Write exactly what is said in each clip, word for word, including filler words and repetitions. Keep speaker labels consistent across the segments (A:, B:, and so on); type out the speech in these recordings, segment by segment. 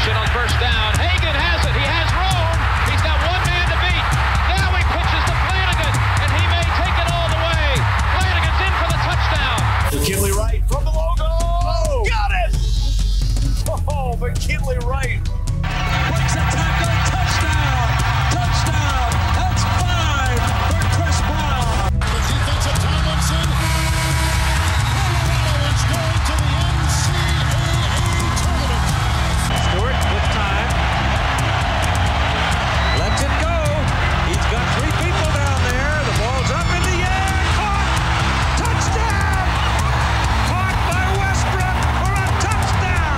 A: Motion on first down. Hagan has it. He has room. He's got one man to beat. Now he pitches to Flanagan, and he may take it all the way. Flanagan's in for the touchdown.
B: McKinley Wright from the logo. Oh, got it. Oh, McKinley Wright.
C: Breaks a tackle. Touchdown. Touchdown. That's five for Chris Brown.
D: The defensive Tomlinson. Colorado is going to the N C double A tournament.
C: Stewart with time. Lets it go. He's got three people down there. The ball's up in the air. Caught. Touchdown. Caught by Westbrook for a touchdown.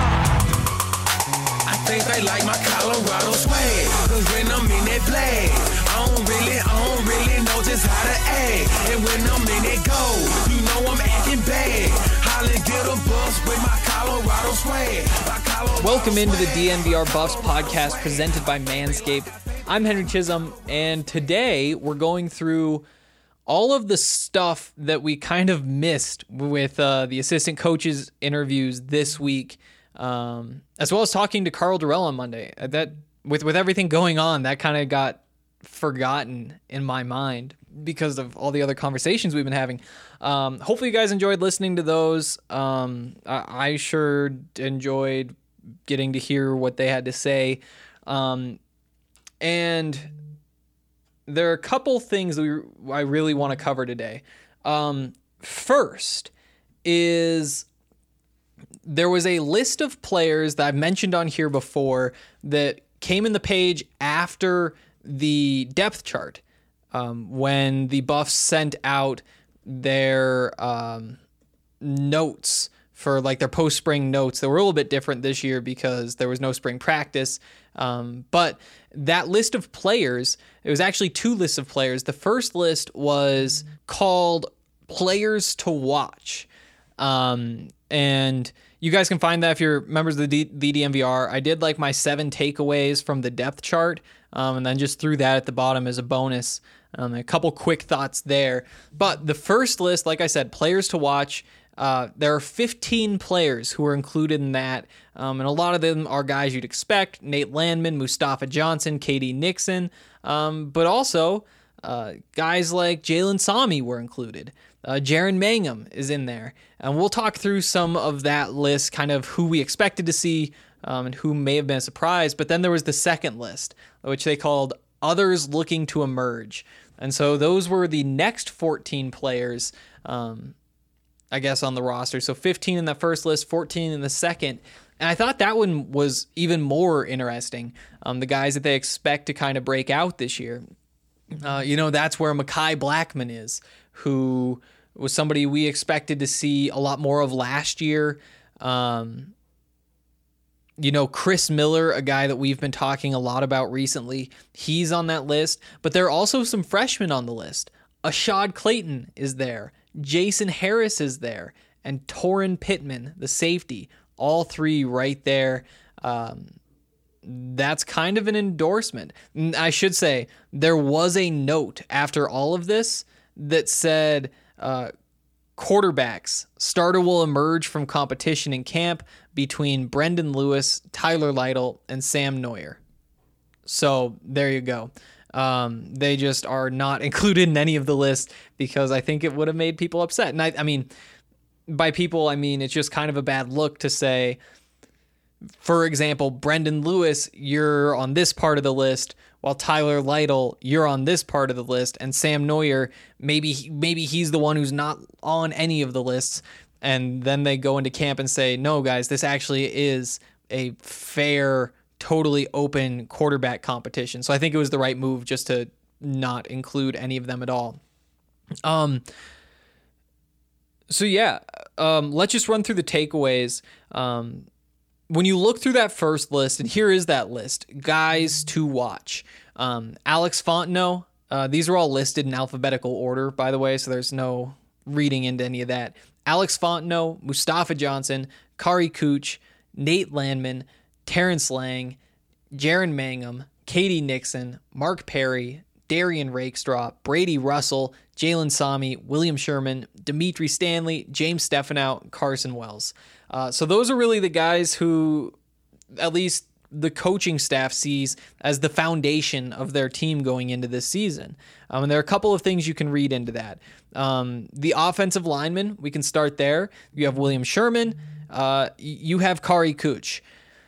E: I think they like my Colorado swag, cause when I'm in that play, I don't really, I don't really know just how to act. And when I'm in that go, you know I'm acting bad. Holla, get a bus with my Colorado swag. My Colorado
F: Welcome into the
E: swag.
F: D N V R Buffs podcast presented by Manscaped. I'm Henry Chisholm, and today we're going through all of the stuff that we kind of missed with uh, the assistant coaches interviews this week, um, as well as talking to Karl Dorrell on Monday. That with with everything going on, that kind of got forgotten in my mind because of all the other conversations we've been having. Um, hopefully you guys enjoyed listening to those. Um, I, I sure enjoyed getting to hear what they had to say. Um, and there are a couple things that we, I really want to cover today. Um, first is there was a list of players that I've mentioned on here before that came in the page after the depth chart, um, when the Buffs sent out their um, notes for like their post-spring notes. They were a little bit different this year because there was no spring practice. Um, but that list of players, it was actually two lists of players. The first list was called Players to Watch. Um, and you guys can find that if you're members of the, D- the D N V R. I did like my seven takeaways from the depth chart, um, and then just threw that at the bottom as a bonus. Um, a couple quick thoughts there. But the first list, like I said, Players to Watch, uh, there are fifteen players who are included in that, um, and a lot of them are guys you'd expect: Nate Landman, Mustafa Johnson, K D Nixon, um, but also uh, guys like Jalen Sami were included. Uh, Jaren Mangham is in there, and we'll talk through some of that list, kind of who we expected to see um, and who may have been a surprise. But then there was the second list, which they called Others Looking to Emerge. And so those were the next fourteen players, um, I guess, on the roster. So fifteen in the first list, fourteen in the second. And I thought that one was even more interesting. Um, the guys that they expect to kind of break out this year. Uh, you know, that's where Mekhi Blackmon is, who was somebody we expected to see a lot more of last year. Um, you know, Chris Miller, a guy that we've been talking a lot about recently, he's on that list. But there are also some freshmen on the list. Ashad Clayton is there. Jason Harris is there. And Torin Pittman, the safety. All three right there. Um, that's kind of an endorsement. I should say, there was a note after all of this that said uh, quarterbacks, starter will emerge from competition in camp between Brendan Lewis, Tyler Lytle, and Sam Neuer. So there you go. Um, they just are not included in any of the list because I think it would have made people upset. And I, I mean, by people, I mean, it's just kind of a bad look to say, for example, Brendan Lewis, you're on this part of the list, while Tyler Lytle, you're on this part of the list, and Sam Neuer, maybe maybe he's the one who's not on any of the lists, and then they go into camp and say, no, guys, this actually is a fair, totally open quarterback competition. So I think it was the right move just to not include any of them at all. Um. So yeah, um, let's just run through the takeaways. Um, when you look through that first list, and here is that list, guys to watch. Um, Alex Fontenot, uh, these are all listed in alphabetical order, by the way, so there's no reading into any of that. Alex Fontenot, Mustafa Johnson, Kari Cooch, Nate Landman, Terrence Lang, Jaren Mangham, K D Nixon, Mark Perry, Darian Rakestraw, Brady Russell, Jalen Sami, William Sherman, Dimitri Stanley, James Stefanow, Carson Wells. Uh, so those are really the guys who, at least the coaching staff sees as the foundation of their team going into this season. Um, and there are a couple of things you can read into that. Um, the offensive linemen, we can start there. You have William Sherman. Uh, you have Kari Kuch.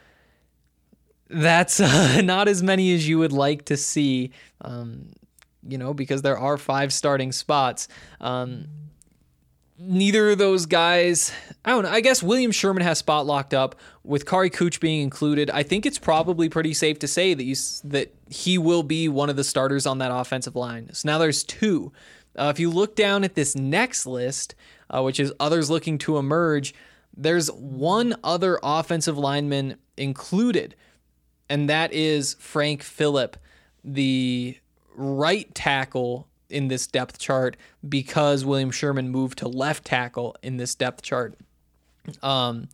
F: That's uh, not as many as you would like to see, um, you know, because there are five starting spots. Um, neither of those guys, I don't know, I guess William Sherman has spot locked up. With Kari Kuch being included, I think it's probably pretty safe to say that you that he will be one of the starters on that offensive line. So now there's two. Uh, if you look down at this next list, uh, which is others looking to emerge, there's one other offensive lineman included, and that is Frank Phillip, the right tackle in this depth chart, because William Sherman moved to left tackle in this depth chart. Um,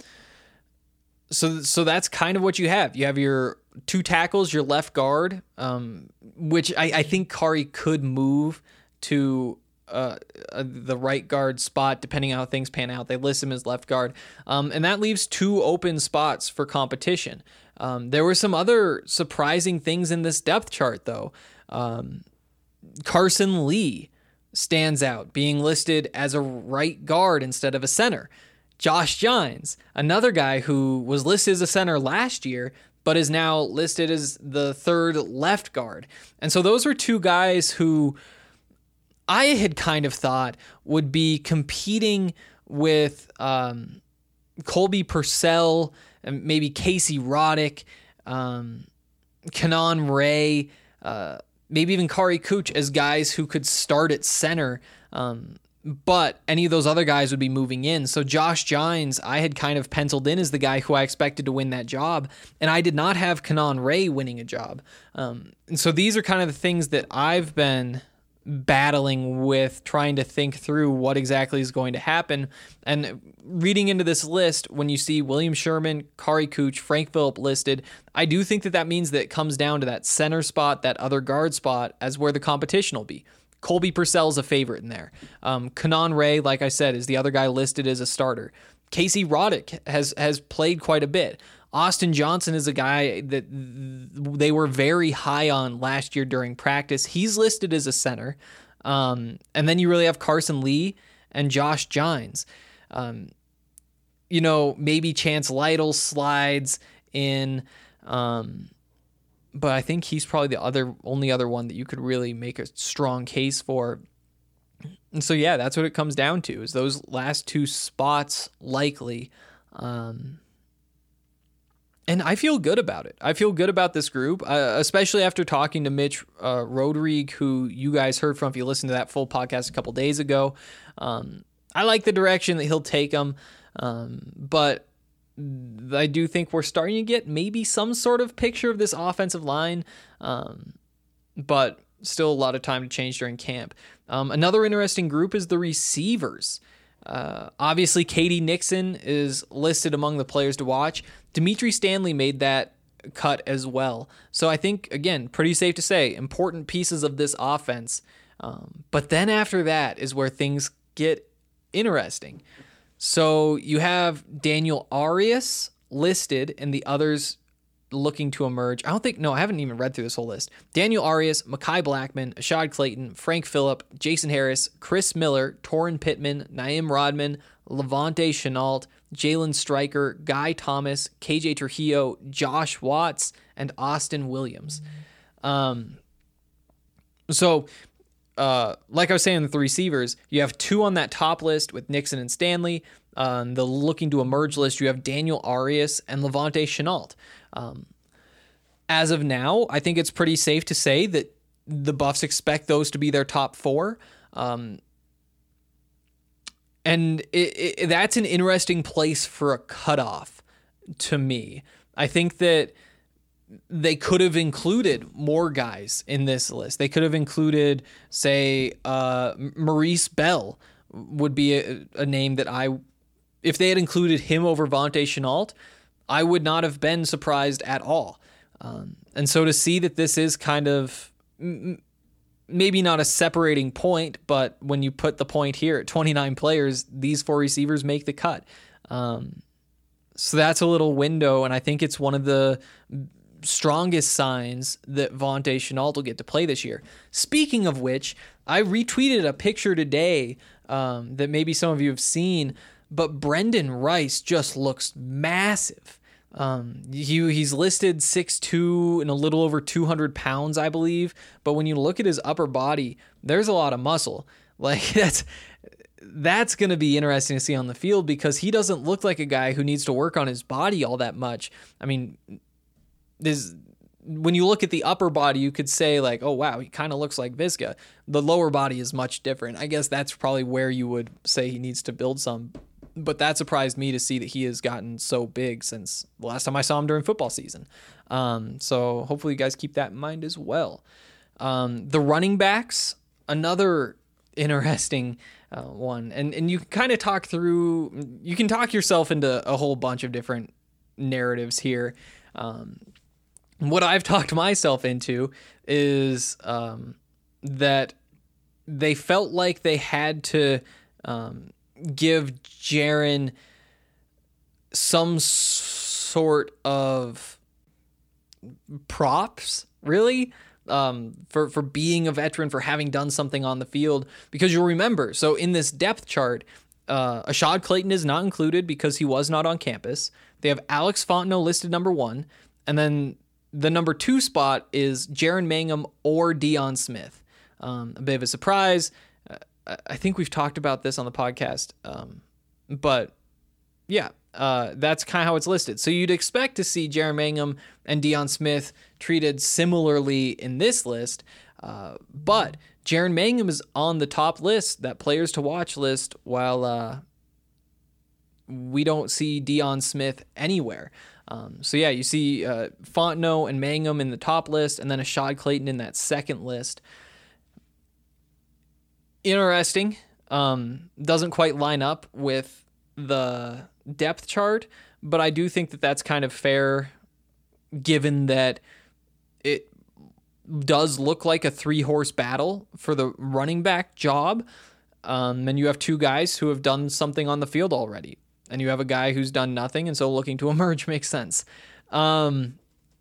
F: so so that's kind of what you have. You have your two tackles, your left guard, um, which I, I think Kari could move to uh, uh, the right guard spot depending on how things pan out. They list him as left guard, um, and that leaves two open spots for competition. Um, there were some other surprising things in this depth chart, though. Um, Carson Lee stands out, being listed as a right guard instead of a center. Josh Gines, another guy who was listed as a center last year, but is now listed as the third left guard. And so those were two guys who I had kind of thought would be competing with um, Colby Purcell and maybe Casey Roddick, um, Kanan Ray, uh, maybe even Kari Kuch as guys who could start at center. Um, but any of those other guys would be moving in. So Josh Gines, I had kind of penciled in as the guy who I expected to win that job. And I did not have Kanan Ray winning a job. Um, and so these are kind of the things that I've been battling with, trying to think through what exactly is going to happen. And reading into this list, when you see William Sherman, Kari Kuch, Frank Phillip listed, I do think that that means that it comes down to that center spot, that other guard spot, as where the competition will be. Colby Purcell's a favorite in there. Um, Kanan Ray, like I said, is the other guy listed as a starter. Casey Roddick has has played quite a bit. Austin Johnson is a guy that they were very high on last year during practice. He's listed as a center. Um, and then you really have Carson Lee and Josh Gines. Um, you know, maybe Chance Lytle slides in, um, but I think he's probably the other only other one that you could really make a strong case for. And so, yeah, that's what it comes down to, is those last two spots likely. Um, and I feel good about it. I feel good about this group, uh, especially after talking to Mitch uh, Rodrigue, who you guys heard from if you listened to that full podcast a couple days ago. Um, I like the direction that he'll take them, um, but I do think we're starting to get maybe some sort of picture of this offensive line, um, but still a lot of time to change during camp. Um, another interesting group is the receivers. Uh, obviously, Katie Nixon is listed among the players to watch. Dimitri Stanley made that cut as well. So I think, again, pretty safe to say, important pieces of this offense. Um, but then after that is where things get interesting. So you have Daniel Arias listed and the others looking to emerge. I don't think, no, I haven't even read through this whole list. Daniel Arias, Mekhi Blackman, Ashad Clayton, Frank Phillip, Jason Harris, Chris Miller, Torrin Pittman, Naim Rodman, Levante Chenault, Jalen Stryker, Guy Thomas, K J Trujillo, Josh Watts, and Austin Williams. Um, so, uh, like I was saying with the receivers, you have two on that top list with Nixon and Stanley. On the looking to emerge list, you have Daniel Arias and Levante Chenault. Um, as of now, I think it's pretty safe to say that the Buffs expect those to be their top four. Um, and it, it, that's an interesting place for a cutoff to me. I think that they could have included more guys in this list. They could have included, say, uh, Maurice Bell would be a, a name that I, if they had included him over Vontae Chenault, I would not have been surprised at all. Um, and so to see that this is kind of m- maybe not a separating point, but when you put the point here at twenty-nine players, these four receivers make the cut. Um, so that's a little window, and I think it's one of the strongest signs that Vontae Shenault will get to play this year. Speaking of which, I retweeted a picture today um, that maybe some of you have seen, but Brendan Rice just looks massive. Um, he, he's listed six two and a little over two hundred pounds, I believe. But when you look at his upper body, there's a lot of muscle. Like that's, that's going to be interesting to see on the field because he doesn't look like a guy who needs to work on his body all that much. I mean, there's, when you look at the upper body, you could say like, oh, wow, he kind of looks like Visca. The lower body is much different. I guess that's probably where you would say he needs to build some. But that surprised me to see that he has gotten so big since the last time I saw him during football season. Um, so hopefully you guys keep that in mind as well. Um, the running backs, another interesting uh, one. And, and you can kind of talk through, you can talk yourself into a whole bunch of different narratives here. Um, what I've talked myself into is um, that they felt like they had to um, give Jaren some sort of props, really, um, for, for being a veteran, for having done something on the field. Because you'll remember, so in this depth chart, uh, Ashad Clayton is not included because he was not on campus. They have Alex Fontenot listed number one, and then the number two spot is Jaren Mangham or Deion Smith. Um, a bit of a surprise. I think we've talked about this on the podcast, um, but yeah, uh, that's kind of how it's listed. So you'd expect to see Jaren Mangham and Deion Smith treated similarly in this list, uh, but Jaren Mangham is on the top list, that players to watch list, while uh, we don't see Deion Smith anywhere. Um, so yeah, you see uh, Fontenot and Mangham in the top list, and then Ashad Clayton in that second list. Interesting. Um, doesn't quite line up with the depth chart, but I do think that that's kind of fair given that it does look like a three-horse battle for the running back job. Um, and you have two guys who have done something on the field already, and you have a guy who's done nothing, and so looking to emerge makes sense. Um,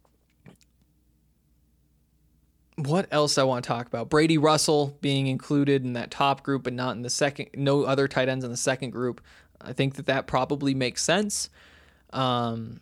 F: What else I want to talk about? Brady Russell being included in that top group, but not in the second. No other tight ends in the second group. I think that that probably makes sense. Um,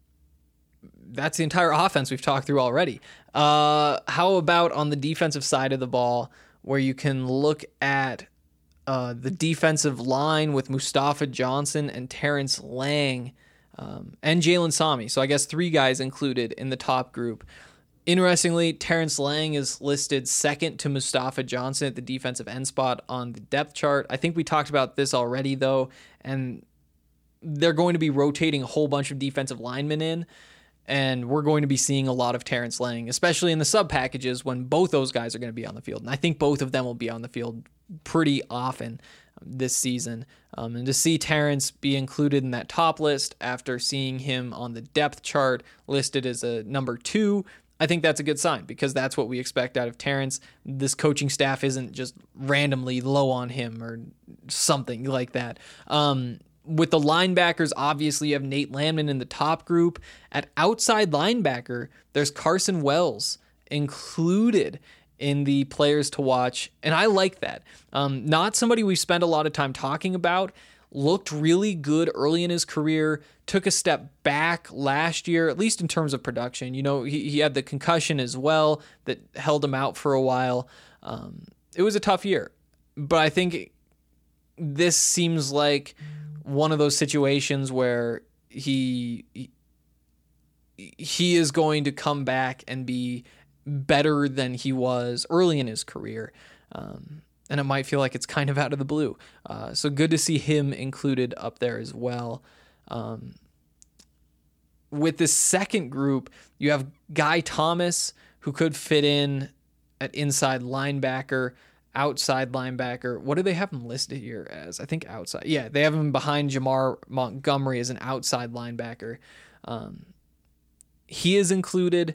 F: that's the entire offense we've talked through already. Uh, how about on the defensive side of the ball, where you can look at uh, the defensive line with Mustafa Johnson and Terrence Lang um, and Jalen Sami? So I guess three guys included in the top group. Interestingly, Terrence Lang is listed second to Mustafa Johnson at the defensive end spot on the depth chart. I think we talked about this already, though, and they're going to be rotating a whole bunch of defensive linemen in, and we're going to be seeing a lot of Terrence Lang, especially in the sub packages when both those guys are going to be on the field. And I think both of them will be on the field pretty often this season. Um, and to see Terrence be included in that top list after seeing him on the depth chart listed as a number two, I think that's a good sign because that's what we expect out of Terrence. This coaching staff isn't just randomly low on him or something like that. Um, with the linebackers, obviously you have Nate Landman in the top group. At outside linebacker, there's Carson Wells included in the players to watch, and I like that. Um, not somebody we've spent a lot of time talking about. Looked really good early in his career, took a step back last year, at least in terms of production. You know, he, he had the concussion as well that held him out for a while. Um, it was a tough year, but I think this seems like one of those situations where he, he, he is going to come back and be better than he was early in his career. Um, And it might feel like it's kind of out of the blue. Uh, so good to see him included up there as well. Um, with this second group, you have Guy Thomas, who could fit in at inside linebacker, outside linebacker. What do they have him listed here as? I think outside. Yeah, they have him behind Jamar Montgomery as an outside linebacker. Um, he is included,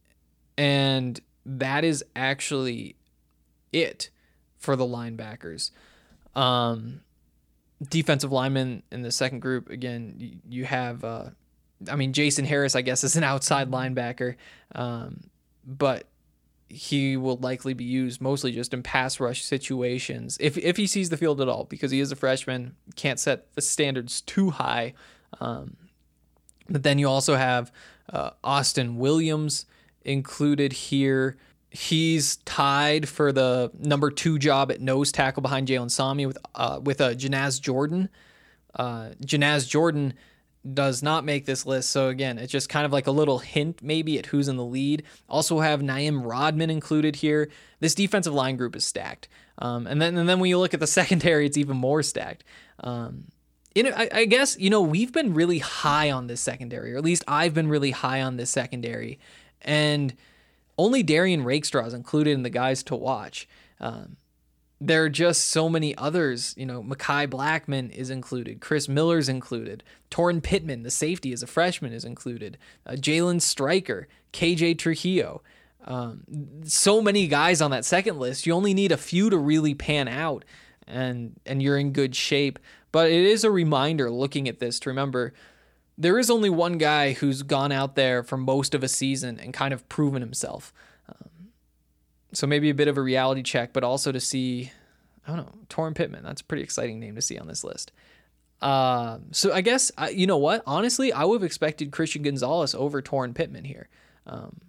F: and that is actually it for the linebackers. Um, defensive linemen in the second group, again, you, you have uh, I mean, Jason Harris, I guess, is an outside linebacker, um, but he will likely be used mostly just in pass rush situations if if he sees the field at all, because he is a freshman, can't set the standards too high. Um, but then you also have uh, Austin Williams included here. He's tied for the number two job at nose tackle behind Jalen Sami with uh, with uh, Janaz Jordan. Uh, Janaz Jordan does not make this list, so again, it's just kind of like a little hint maybe at who's in the lead. Also have Naim Rodman included here. This defensive line group is stacked, um, and then and then when you look at the secondary, it's even more stacked. Um, you know, I, I guess you know we've been really high on this secondary, or at least I've been really high on this secondary, and only Darian Rakestraw is included in the guys to watch. Um, There are just so many others. You know, Mekhi Blackman is included. Chris Miller's included. Torrin Pittman, the safety as a freshman, is included. Uh, Jalen Stryker, K J Trujillo. Um, so many guys on that second list. You only need a few to really pan out, and and you're in good shape. But it is a reminder looking at this to remember there is only one guy who's gone out there for most of a season and kind of proven himself. So maybe a bit of a reality check, but also to see, I don't know, Torrin Pittman. That's a pretty exciting name to see on this list. Uh, so I guess, I, you know what? Honestly, I would have expected Christian Gonzalez over Torrin Pittman here. Um,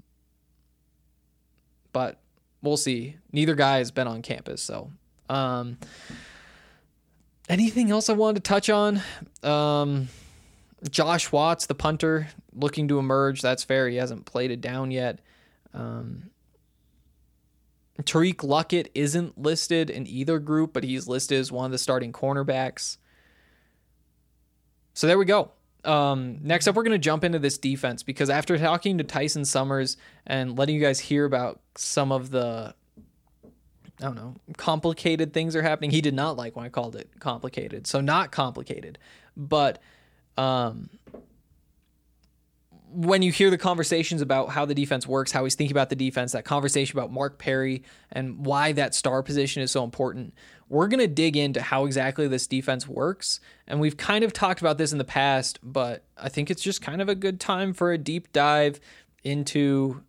F: but we'll see. Neither guy has been on campus. So um, anything else I wanted to touch on? Um, Josh Watts, the punter, looking to emerge. That's fair. He hasn't played it down yet. Um, Tariq Luckett isn't listed in either group, but he's listed as one of the starting cornerbacks. So there we go. Um, next up, we're going to jump into this defense, because after talking to Tyson Summers and letting you guys hear about some of the, I don't know, complicated things are happening. He did not like when I called it complicated. So not complicated, but um, when you hear the conversations about how the defense works, how he's thinking about the defense, that conversation about Mark Perry and why that star position is so important, we're going to dig into how exactly this defense works. And we've kind of talked about this in the past, but I think it's just kind of a good time for a deep dive into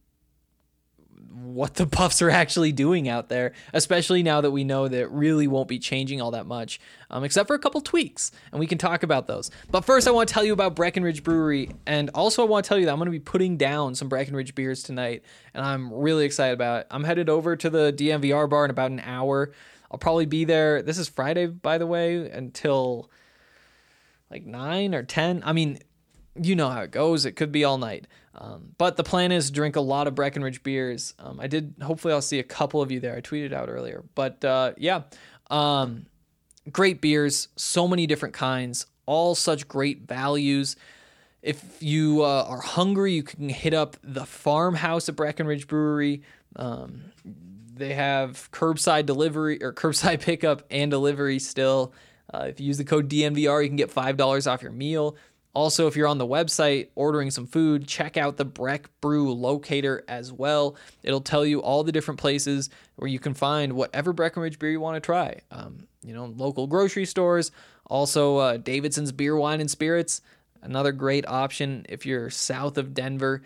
F: what the Buffs are actually doing out there, especially now that we know that it really won't be changing all that much, um, except for a couple tweaks, and we can talk about those. But first, I want to tell you about Breckenridge Brewery, and also I want to tell you that I'm going to be putting down some Breckenridge beers tonight, and I'm really excited about it. I'm headed over to the D N V R bar in about an hour. I'll probably be there. This is Friday, by the way, until like nine or ten. I mean, you know how it goes. It could be all night. Um, but the plan is to drink a lot of Breckenridge beers. Um, I did, hopefully I'll see a couple of you there. I tweeted out earlier, but, uh, yeah, um, great beers, so many different kinds, all such great values. If you, uh, are hungry, you can hit up the Farmhouse at Breckenridge Brewery. Um, they have curbside delivery or curbside pickup and delivery still. Uh, if you use the code D N V R, you can get five dollars off your meal. Also, if you're on the website ordering some food, check out the Breck Brew locator as well. It'll tell you all the different places where you can find whatever Breckenridge beer you want to try. Um, you know, local grocery stores. Also, uh, Davidson's Beer, Wine, and Spirits. Another great option if you're south of Denver.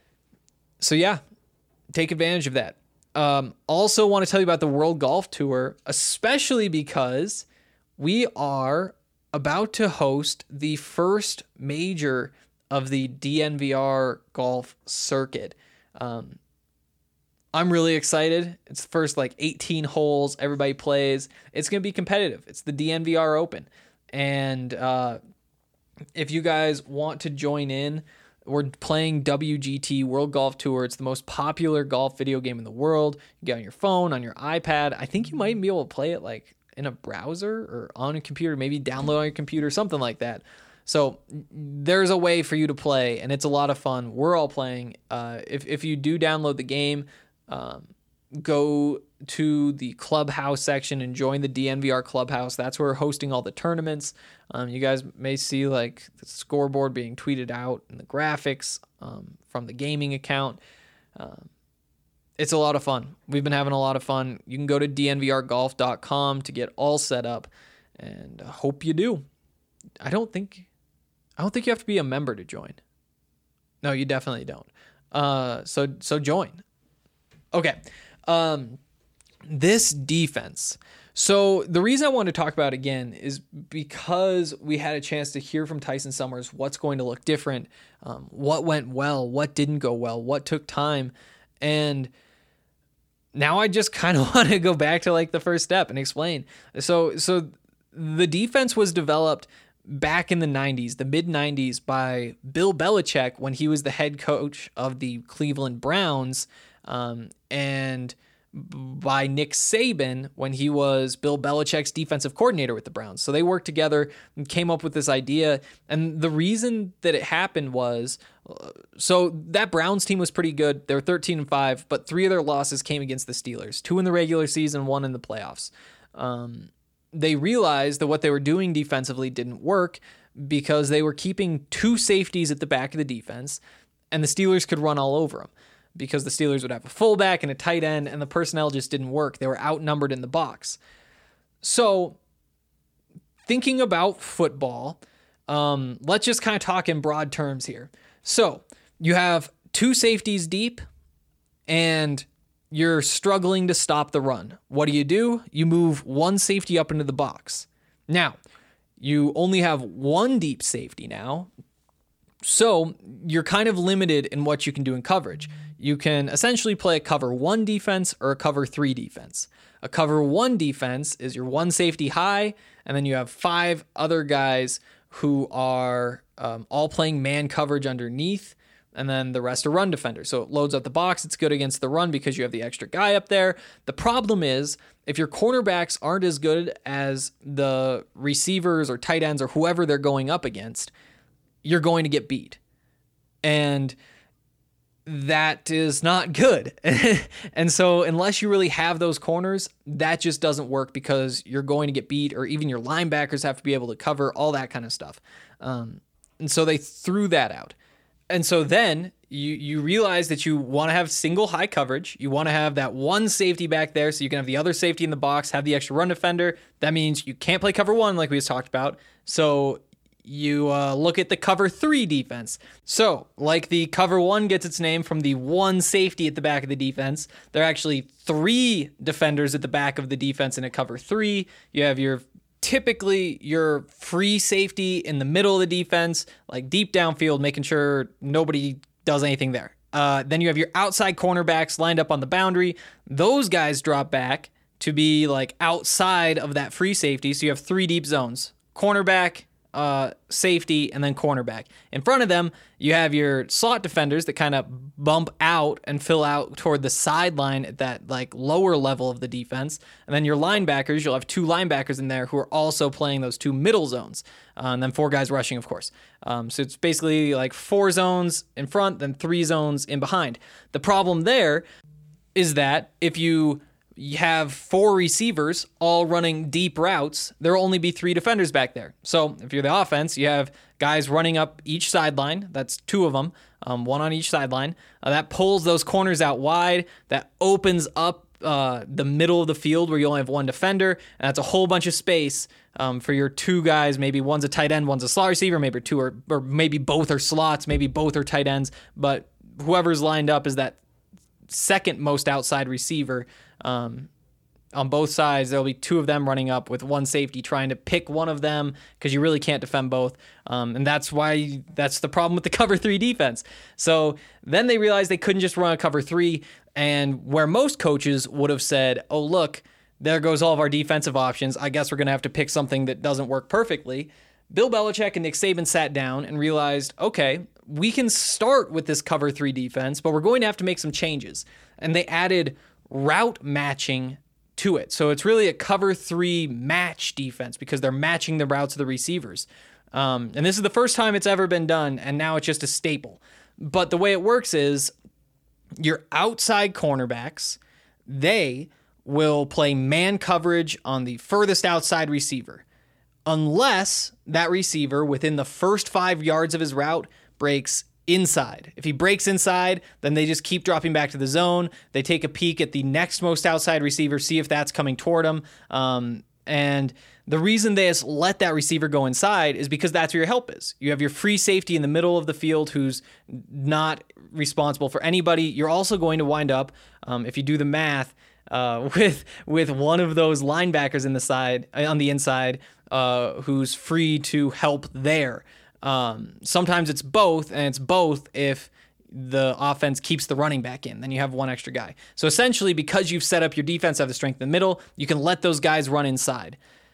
F: So yeah, take advantage of that. Um, also want to tell you about the World Golf Tour, especially because we are about to host the first major of the D N V R golf circuit. Um, I'm really excited. It's the first like eighteen holes. Everybody plays. It's going to be competitive. It's the D N V R Open. And uh, if you guys want to join in, we're playing W G T, World Golf Tour. It's the most popular golf video game in the world. You get on your phone, on your iPad. I think you might be able to play it like in a browser or on a computer, maybe download on your computer, something like that. So there's a way for you to play, and it's a lot of fun. We're all playing. Uh, if, if you do download the game, um, go to the Clubhouse section and join the D N V R Clubhouse. That's where we're hosting all the tournaments. Um, you guys may see like the scoreboard being tweeted out and the graphics um, from the gaming account. Um, It's a lot of fun. We've been having a lot of fun. You can go to D N V R golf dot com to get all set up, and I hope you do. I don't think I don't think you have to be a member to join. No, you definitely don't. Uh, so so join. Okay. Um, this defense. So the reason I wanted to talk about it again is because we had a chance to hear from Tyson Summers what's going to look different, um, what went well, what didn't go well, what took time. And now I just kind of want to go back to like the first step and explain. So so the defense was developed back in the nineties, the mid nineties, by Bill Belichick when he was the head coach of the Cleveland Browns, um, and by Nick Saban when he was Bill Belichick's defensive coordinator with the Browns. So they worked together and came up with this idea. And the reason that it happened was, uh, so that Browns team was pretty good. They were thirteen and five, but three of their losses came against the Steelers, two in the regular season, one in the playoffs. Um, they realized that what they were doing defensively didn't work because they were keeping two safeties at the back of the defense, and the Steelers could run all over them because the Steelers would have a fullback and a tight end, and the personnel just didn't work. They were outnumbered in the box. So thinking about football, um, let's just kind of talk in broad terms here. So you have two safeties deep, and you're struggling to stop the run. What do you do? You move one safety up into the box. Now, you only have one deep safety now, so you're kind of limited in what you can do in coverage. You can essentially play a cover one defense or a cover three defense. A cover one defense is your one safety high, and then you have five other guys who are um, all playing man coverage underneath, and then the rest are run defenders. So it loads up the box. It's good against the run because you have the extra guy up there. The problem is if your cornerbacks aren't as good as the receivers or tight ends or whoever they're going up against, you're going to get beat. And that is not good. And so unless you really have those corners, that just doesn't work because you're going to get beat, or even your linebackers have to be able to cover, all that kind of stuff. Um, and so they threw that out. And so then you you realize that you want to have single high coverage. You want to have that one safety back there so you can have the other safety in the box, have the extra run defender. That means you can't play cover one like we just talked about. So you uh, look at the cover three defense. So like the cover one gets its name from the one safety at the back of the defense, there are actually three defenders at the back of the defense in a cover three. You have your typically your free safety in the middle of the defense, like deep downfield, making sure nobody does anything there. Uh, then you have your outside cornerbacks lined up on the boundary. Those guys drop back to be like outside of that free safety. So you have three deep zones: cornerback, uh, safety, and then cornerback. In front of them, you have your slot defenders that kind of bump out and fill out toward the sideline at that like lower level of the defense. And then your linebackers, you'll have two linebackers in there who are also playing those two middle zones. Uh, and then four guys rushing, of course. Um, so it's basically like four zones in front, then three zones in behind. The problem there is that if you you have four receivers all running deep routes, there will only be three defenders back there. So if you're the offense, you have guys running up each sideline. That's two of them, um, one on each sideline. Uh, that pulls those corners out wide. That opens up uh, the middle of the field where you only have one defender. And that's a whole bunch of space um, for your two guys. Maybe one's a tight end, one's a slot receiver. Maybe two are, or maybe both are slots. Maybe both are tight ends. But whoever's lined up is that second most outside receiver. Um, on both sides, there'll be two of them running up with one safety trying to pick one of them because you really can't defend both. Um, and that's why that's the problem with the cover three defense. So then they realized they couldn't just run a cover three, and where most coaches would have said, oh, look, there goes all of our defensive options. I guess we're going to have to pick something that doesn't work perfectly. Bill Belichick and Nick Saban sat down and realized, okay, we can start with this cover three defense, but we're going to have to make some changes. And they added route matching to it. So it's really a cover three match defense because they're matching the routes of the receivers. Um, and this is the first time it's ever been done, and now it's just a staple. But the way it works is your outside cornerbacks, they will play man coverage on the furthest outside receiver, unless that receiver within the first five yards of his route breaks inside. If he breaks inside, then they just keep dropping back to the zone. They take a peek at the next most outside receiver, see if that's coming toward him. Um, And the reason they just let that receiver go inside is because that's where your help is. You have your free safety in the middle of the field who's not responsible for anybody. You're also going to wind up, um, if you do the math, uh, with with one of those linebackers in the side on the inside uh, who's free to help there. Um, sometimes it's both, and it's both if the offense keeps the running back in, then you have one extra guy. So essentially, because you've set up your defense, have the strength in the middle, you can let those guys run inside.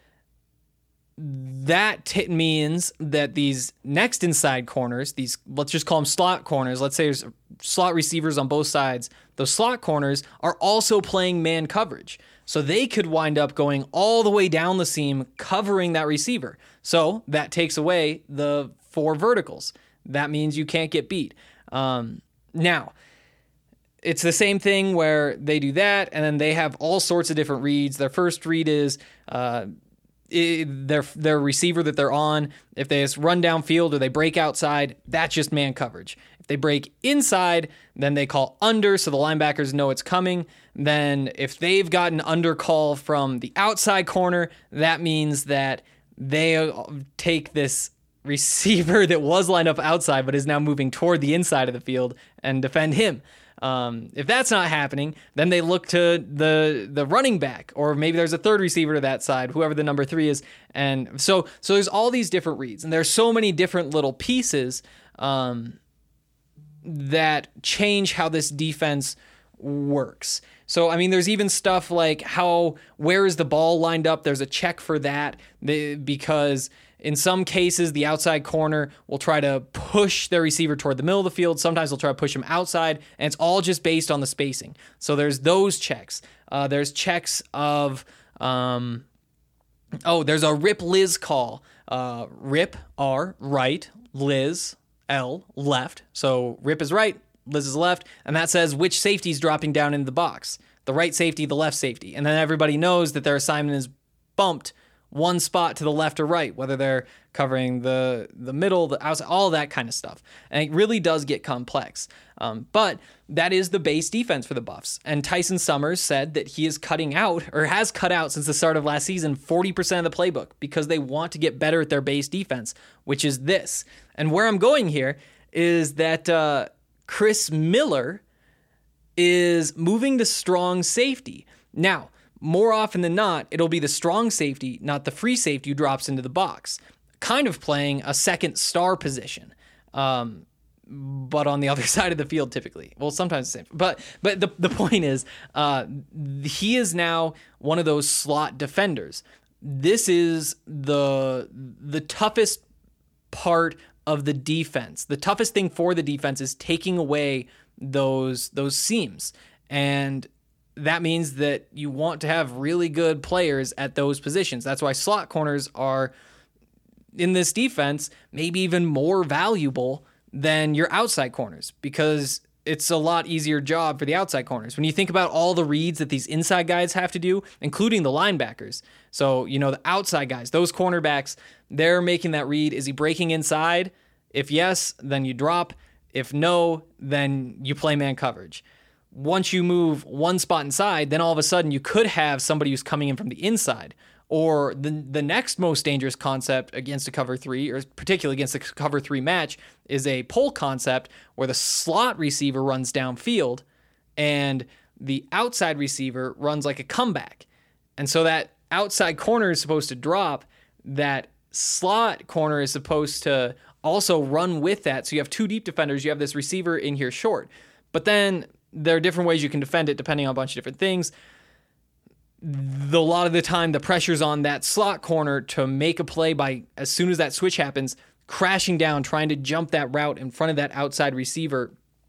F: That t- means that these next inside corners, these, let's just call them slot corners. Let's say there's slot receivers on both sides. Those slot corners are also playing man coverage. So they could wind up going all the way down the seam, covering that receiver. So that takes away the four verticals. That means you can't get beat. Um, now, it's the same thing where they do that, and then they have all sorts of different reads. Their first read is uh, it, their their receiver that they're on. If they just run downfield or they break outside, that's just man coverage. If they break inside, then they call under, so the linebackers know it's coming. Then if they've got an under call from the outside corner, that means that they take this receiver that was lined up outside but is now moving toward the inside of the field and defend him. Um, if that's not happening, then they look to the the running back, or maybe there's a third receiver to that side, whoever the number three is. And so so there's all these different reads, and there's so many different little pieces um, that change how this defense works. So, I mean, there's even stuff like how, where is the ball lined up? There's a check for that because in some cases, the outside corner will try to push their receiver toward the middle of the field. Sometimes they'll try to push him outside, and it's all just based on the spacing. So there's those checks. Uh, there's checks of, um, oh, there's a rip Liz call. Uh, rip, R, right, Liz, L, left. So rip is right, Liz is left, and that says which safety is dropping down into the box. The right safety, the left safety. And then everybody knows that their assignment is bumped one spot to the left or right, whether they're covering the the middle, the outside, all that kind of stuff. And it really does get complex. Um, but that is the base defense for the Buffs. And Tyson Summers said that he is cutting out, or has cut out since the start of last season, forty percent of the playbook because they want to get better at their base defense, which is this. And where I'm going here is that uh, Chris Miller is moving to strong safety. Now, more often than not, it'll be the strong safety, not the free safety, who drops into the box, kind of playing a second star position, um, but on the other side of the field typically. Well, sometimes the same. But but the, the point is, uh, he is now one of those slot defenders. This is the the toughest part of the defense. The toughest thing for the defense is taking away those those seams, and that means that you want to have really good players at those positions. That's why slot corners are, in this defense, maybe even more valuable than your outside corners, because it's a lot easier job for the outside corners. When you think about all the reads that these inside guys have to do, including the linebackers. So, you know, the outside guys, those cornerbacks, they're making that read. Is he breaking inside? If yes, then you drop. If no, then you play man coverage. Once you move one spot inside, then all of a sudden you could have somebody who's coming in from the inside. Or the the next most dangerous concept against a cover three, or particularly against a cover three match, is a pull concept where the slot receiver runs downfield and the outside receiver runs like a comeback. And so that outside corner is supposed to drop. That slot corner is supposed to also run with that. So you have two deep defenders. You have this receiver in here short. But then there are different ways you can defend it depending on a bunch of different things. The, a lot of the time, the pressure's on that slot corner to make a play by, as soon as that switch happens, crashing down, trying to jump that route in front of that outside receiver.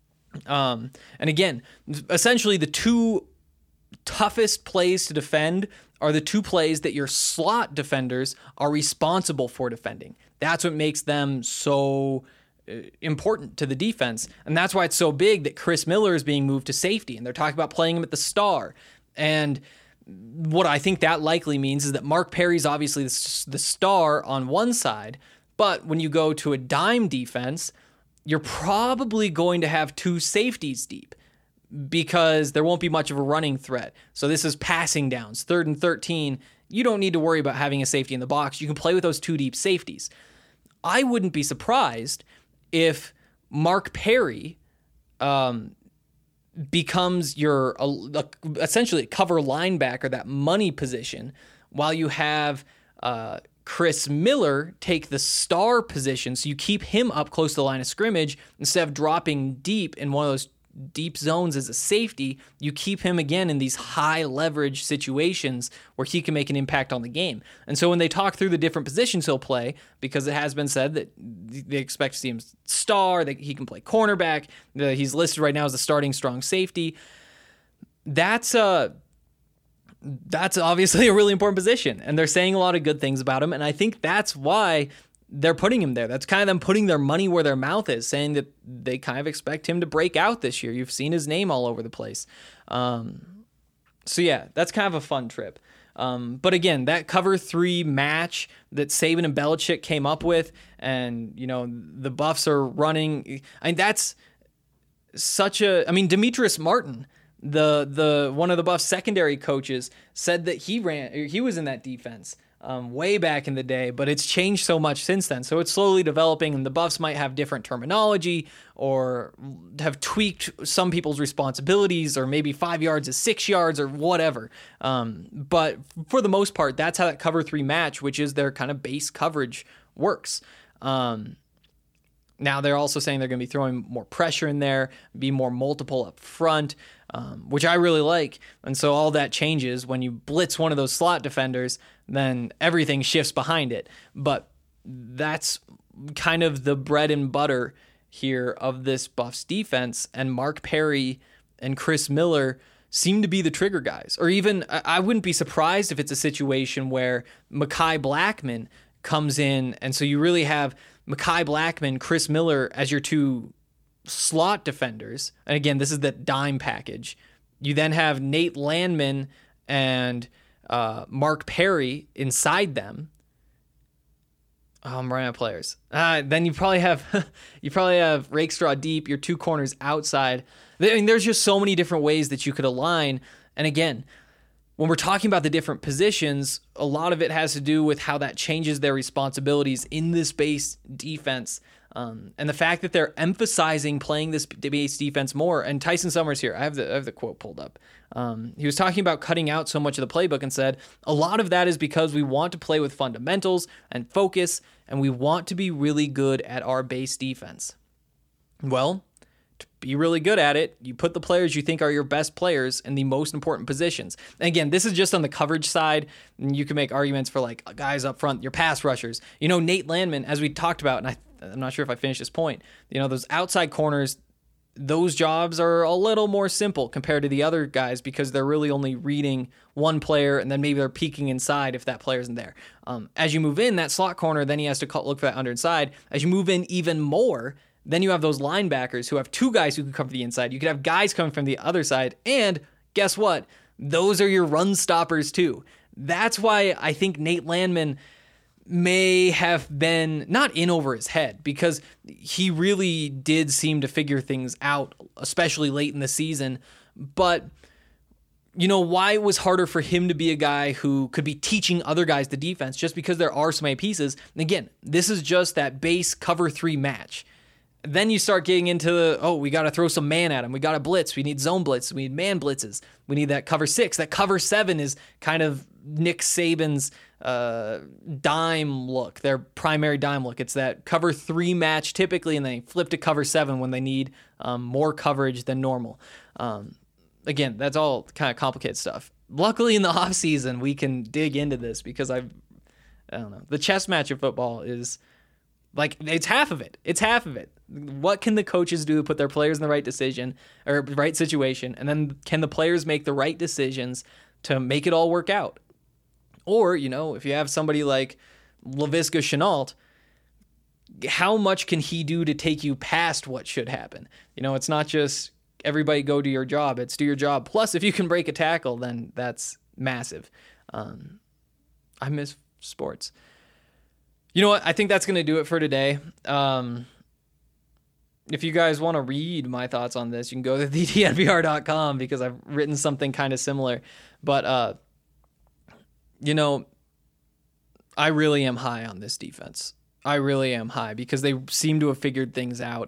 F: Um, and again, essentially the two toughest plays to defend are the two plays that your slot defenders are responsible for defending. That's what makes them so important to the defense. And that's why it's so big that Chris Miller is being moved to safety. And they're talking about playing him at the star. And what I think that likely means is that Mark Perry's obviously the, the star on one side, but when you go to a dime defense, you're probably going to have two safeties deep because there won't be much of a running threat. So this is passing downs, third and thirteen you don't need to worry about having a safety in the box. You can play with those two deep safeties. I wouldn't be surprised if Mark Perry um, becomes your uh, essentially a cover linebacker, that money position, while you have uh, Chris Miller take the star position. So you keep him up close to the line of scrimmage instead of dropping deep in one of those deep zones as a safety. You keep him again in these high leverage situations where he can make an impact on the game. And so when they talk through the different positions he'll play, because it has been said that they expect to see him star, that he can play cornerback, that he's listed right now as a starting strong safety. That's uh that's obviously a really important position, and they're saying a lot of good things about him. And I think that's why they're putting him there. That's kind of them putting their money where their mouth is, saying that they kind of expect him to break out this year. You've seen his name all over the place. Um, so yeah, that's kind of a fun trip. Um, but again, that cover three match that Saban and Belichick came up with, and you know the Buffs are running. I mean, that's such a. I mean, Demetrius Martin, the the one of the Buffs secondary coaches, said that he ran. He was in that defense Um, way back in the day, but it's changed so much since then. So it's slowly developing, and the Buffs might have different terminology or have tweaked some people's responsibilities, or maybe five yards is six yards or whatever. Um, but for the most part, that's how that cover three match, which is their kind of base coverage, works. Um, now they're also saying they're going to be throwing more pressure in there, be more multiple up front, um, which I really like. And so all that changes when you blitz one of those slot defenders, then everything shifts behind it. But that's kind of the bread and butter here of this Buffs defense. And Mark Perry and Chris Miller seem to be the trigger guys. Or even, I wouldn't be surprised if it's a situation where Mekhi Blackman comes in, and so you really have Mekhi Blackman, Chris Miller as your two slot defenders. And again, this is the dime package. You then have Nate Landman and uh, Mark Perry inside them. Oh, I'm running out of players. Uh, then you probably have you probably have Rakestraw deep, your two corners outside. I mean, there's just so many different ways that you could align. And again, when we're talking about the different positions, a lot of it has to do with how that changes their responsibilities in this base defense. Um, and the fact that they're emphasizing playing this base defense more. And Tyson Summers here, I have the I have the quote pulled up. Um, he was talking about cutting out so much of the playbook and said, a lot of that is because we want to play with fundamentals and focus, and we want to be really good at our base defense. Well, to be really good at it, you put the players you think are your best players in the most important positions. And again, this is just on the coverage side, and you can make arguments for like guys up front, your pass rushers. You know, Nate Landman, as we talked about, and I, I'm not sure if I finished this point, you know, those outside corners, those jobs are a little more simple compared to the other guys because they're really only reading one player, and then maybe they're peeking inside if that player isn't there. Um, as you move in that slot corner, then he has to look for that under inside. As you move in even more, then you have those linebackers who have two guys who can come from the inside. You could have guys coming from the other side. And guess what? Those are your run stoppers too. That's why I think Nate Landman may have been not in over his head, because he really did seem to figure things out, especially late in the season. But you know why it was harder for him to be a guy who could be teaching other guys the defense, just because there are so many pieces. And again, this is just that base cover three match. Then you start getting into the, oh, we got to throw some man at him. We got to blitz. We need zone blitz. We need man blitzes. We need that cover six. That cover seven is kind of Nick Saban's uh, dime look, their primary dime look. It's that cover three match typically, and then they flip to cover seven when they need um, more coverage than normal. Um, again, that's all kind of complicated stuff. Luckily, in the off season, we can dig into this because I've, I don't know, the chess match of football is like, it's half of it. It's half of it. What can the coaches do to put their players in the right decision or right situation? And then can the players make the right decisions to make it all work out? Or, you know, if you have somebody like Laviska Shenault, how much can he do to take you past what should happen? You know, it's not just everybody go do your job. It's do your job. Plus, if you can break a tackle, then that's massive. Um, I miss sports. You know what? I think that's going to do it for today. Um, if you guys want to read my thoughts on this, you can go to the D N V R dot com because I've written something kind of similar. But, uh, you know, I really am high on this defense. I really am high because they seem to have figured things out.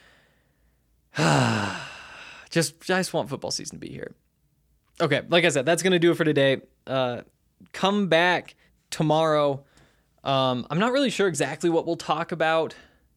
F: just, I just want football season to be here. Okay, like I said, that's going to do it for today. Uh, come back tomorrow. Um, I'm not really sure exactly what we'll talk about,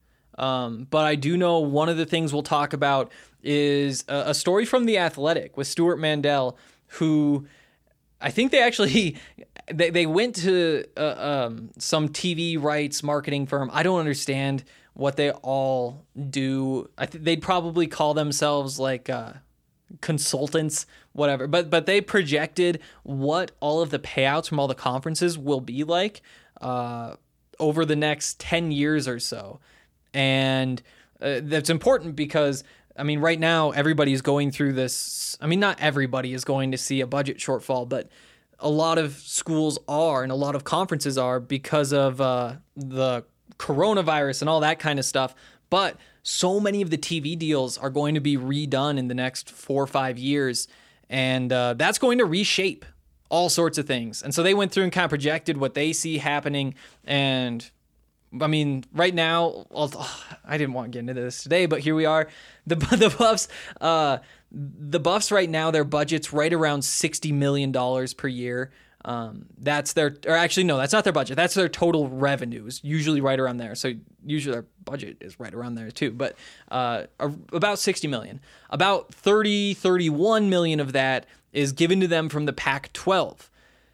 F: um, but I do know one of the things we'll talk about is a, a story from The Athletic with Stuart Mandel, who I think they actually they, they went to uh, um, some T V rights marketing firm. I don't understand what they all do. I think they'd probably call themselves like uh, consultants, whatever. But but they projected what all of the payouts from all the conferences will be like uh, over the next ten years or so. And uh, that's important because, I mean, right now everybody's going through this. I mean, not everybody is going to see a budget shortfall, but a lot of schools are and a lot of conferences are because of uh, the coronavirus and all that kind of stuff. But so many of the T V deals are going to be redone in the next four or five years. And uh, that's going to reshape all sorts of things. And so they went through and kind of projected what they see happening. And I mean, right now, oh, I didn't want to get into this today, but here we are. The the Buffs, uh, the Buffs right now, their budget's right around sixty million dollars per year. Um, that's their, or actually, no, that's not their budget. That's their total revenues, usually right around there. So usually their budget is right around there too, but uh, about sixty million. About thirty, thirty-one million of that is given to them from the Pac twelve.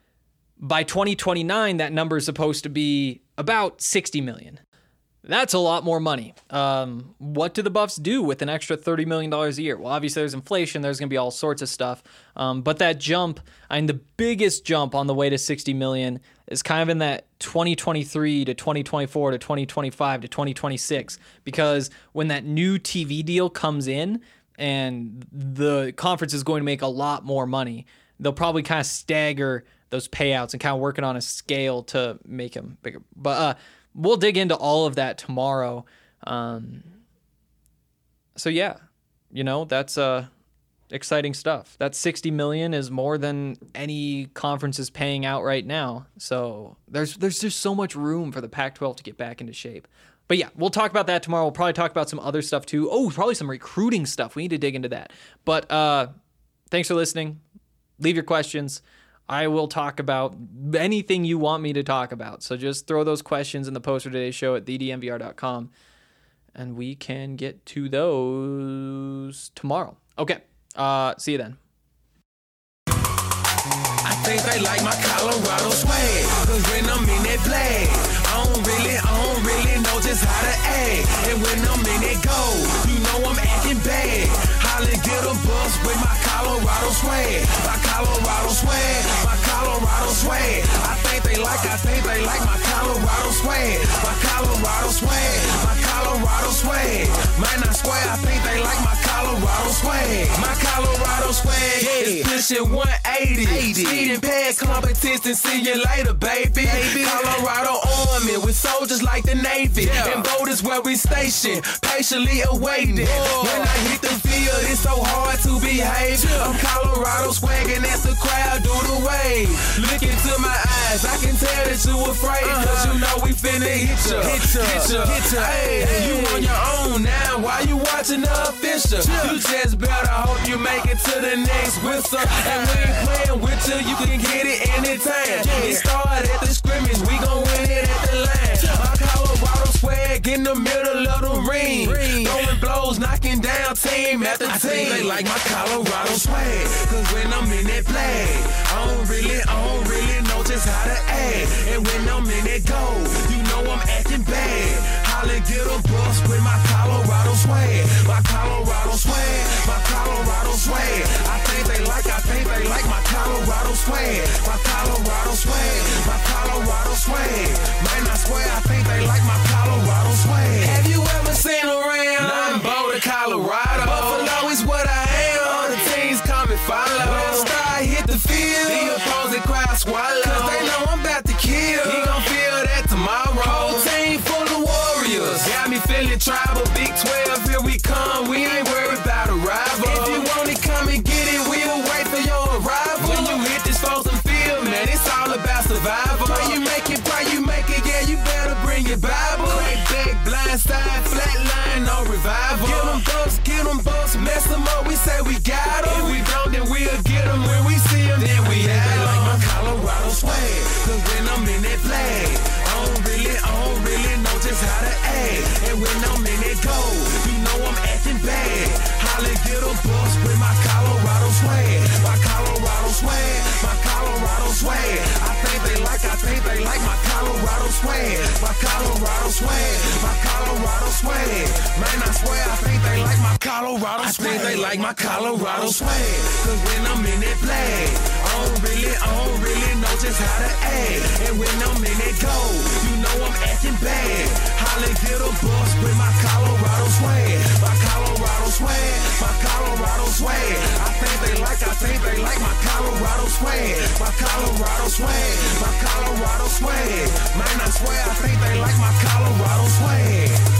F: By twenty twenty-nine, that number is supposed to be about sixty million. That's a lot more money. Um, what do the Buffs do with an extra thirty million dollars a year? Well, obviously there's inflation. There's going to be all sorts of stuff. Um, but that jump, I mean, the biggest jump on the way to sixty million is kind of in that twenty twenty-three to twenty twenty-four to twenty twenty-five to twenty twenty-six. Because when that new T V deal comes in and the conference is going to make a lot more money, they'll probably kind of stagger those payouts and kind of working on a scale to make them bigger. But uh, we'll dig into all of that tomorrow. Um, so yeah, you know, that's uh, exciting stuff. That sixty million is more than any conference is paying out right now. So there's there's just so much room for the Pac twelve to get back into shape. But yeah, we'll talk about that tomorrow. We'll probably talk about some other stuff too. Oh, probably some recruiting stuff. We need to dig into that. But uh, thanks for listening. Leave your questions. I will talk about anything you want me to talk about. So just throw those questions in the post for today's show at the d m v r dot com, and we can get to those tomorrow. Okay, uh, see you then.
E: I think they like my Colorado swag, cause when I'm in that flag, I don't really, I don't really know just how to act. And when I'm in that goal, you know I'm acting bad. Holly get a bus with my Colorado swag, my Colorado swag, my Colorado swag. I think they like, I think they like my Colorado swag, my Colorado swag, my Colorado swag. Might not swear, I think they like my Colorado swag, my Colorado swag. Yeah, it's pushing one eighty. Speed and pad competition, see you later, baby. baby. Colorado Army with soldiers like the Navy, yeah. And boat is where we station, patiently awaiting. Whoa. When I hit the field, it's so hard to behave. Yeah. I'm Colorado swagging as the crowd do the wave. Look into my eyes, I can tell that you afraid, uh-huh. Cause you know we finna hit ya, hit ya, hit ya, hit ya. Hey, hey, you on your own now, why you watching the official? Yeah. You just better hope you make it to the next whistle. And we ain't playing with you, you can get it anytime. Yeah. It started at the scrimmage, we gon' win it at the line. My Colorado swag in the middle of the ring, ring. Throwing blows, knocking down team after team. I think they like my Colorado swag, cause when I'm in that flag, I don't really, I don't really know just how to act. And when I'm in that goal, you know I'm acting bad. Holly get a bus with my Colorado swag, my Colorado swag, my Colorado swag. I think they like, I think they like my Colorado swag, my Colorado swag, my Colorado swag. Might not swear, I think they like my Colorado swag. Have you ever seen around? I'm Boulder, Colorado. Buffalo is what I am. All the teams come and follow. When the star hit the field, the opposing crowd swallow. Cause they know I'm about to kill. He gon' feel that tomorrow. Whole team full of warriors. Got me feeling tribal. Big twelve, here we come. We ain't worried about a rival. If you want it, come and get it. We'll wait for your arrival. When you hit this frozen field, man, it's all about survival. them up, we say we got them. If we don't, then we'll get them when we see them. Then we have them. Like my Colorado swag, cause when I'm in that flag, I don't really, I don't really know just how to act. And when I'm in that gold, you know I'm acting bad. Holly get a bus with my Colorado swag. My Colorado swag, my Colorado swag. I think they like, I think they like my Colorado swag. My Colorado swag, my Colorado swag. Man, I swear I think they like my Colorado swag. I think they like my Colorado swag. Cause when I'm in that flag, I don't really, I don't really know just how to act. And when I'm in that gold, you know I'm acting bad. Holly get a bus with my Colorado swag. My Colorado swag, my Colorado swag. I think they like, I think they like my Colorado swag. My Colorado swag, my Colorado swag. Man, I swear I think they like my Colorado swag.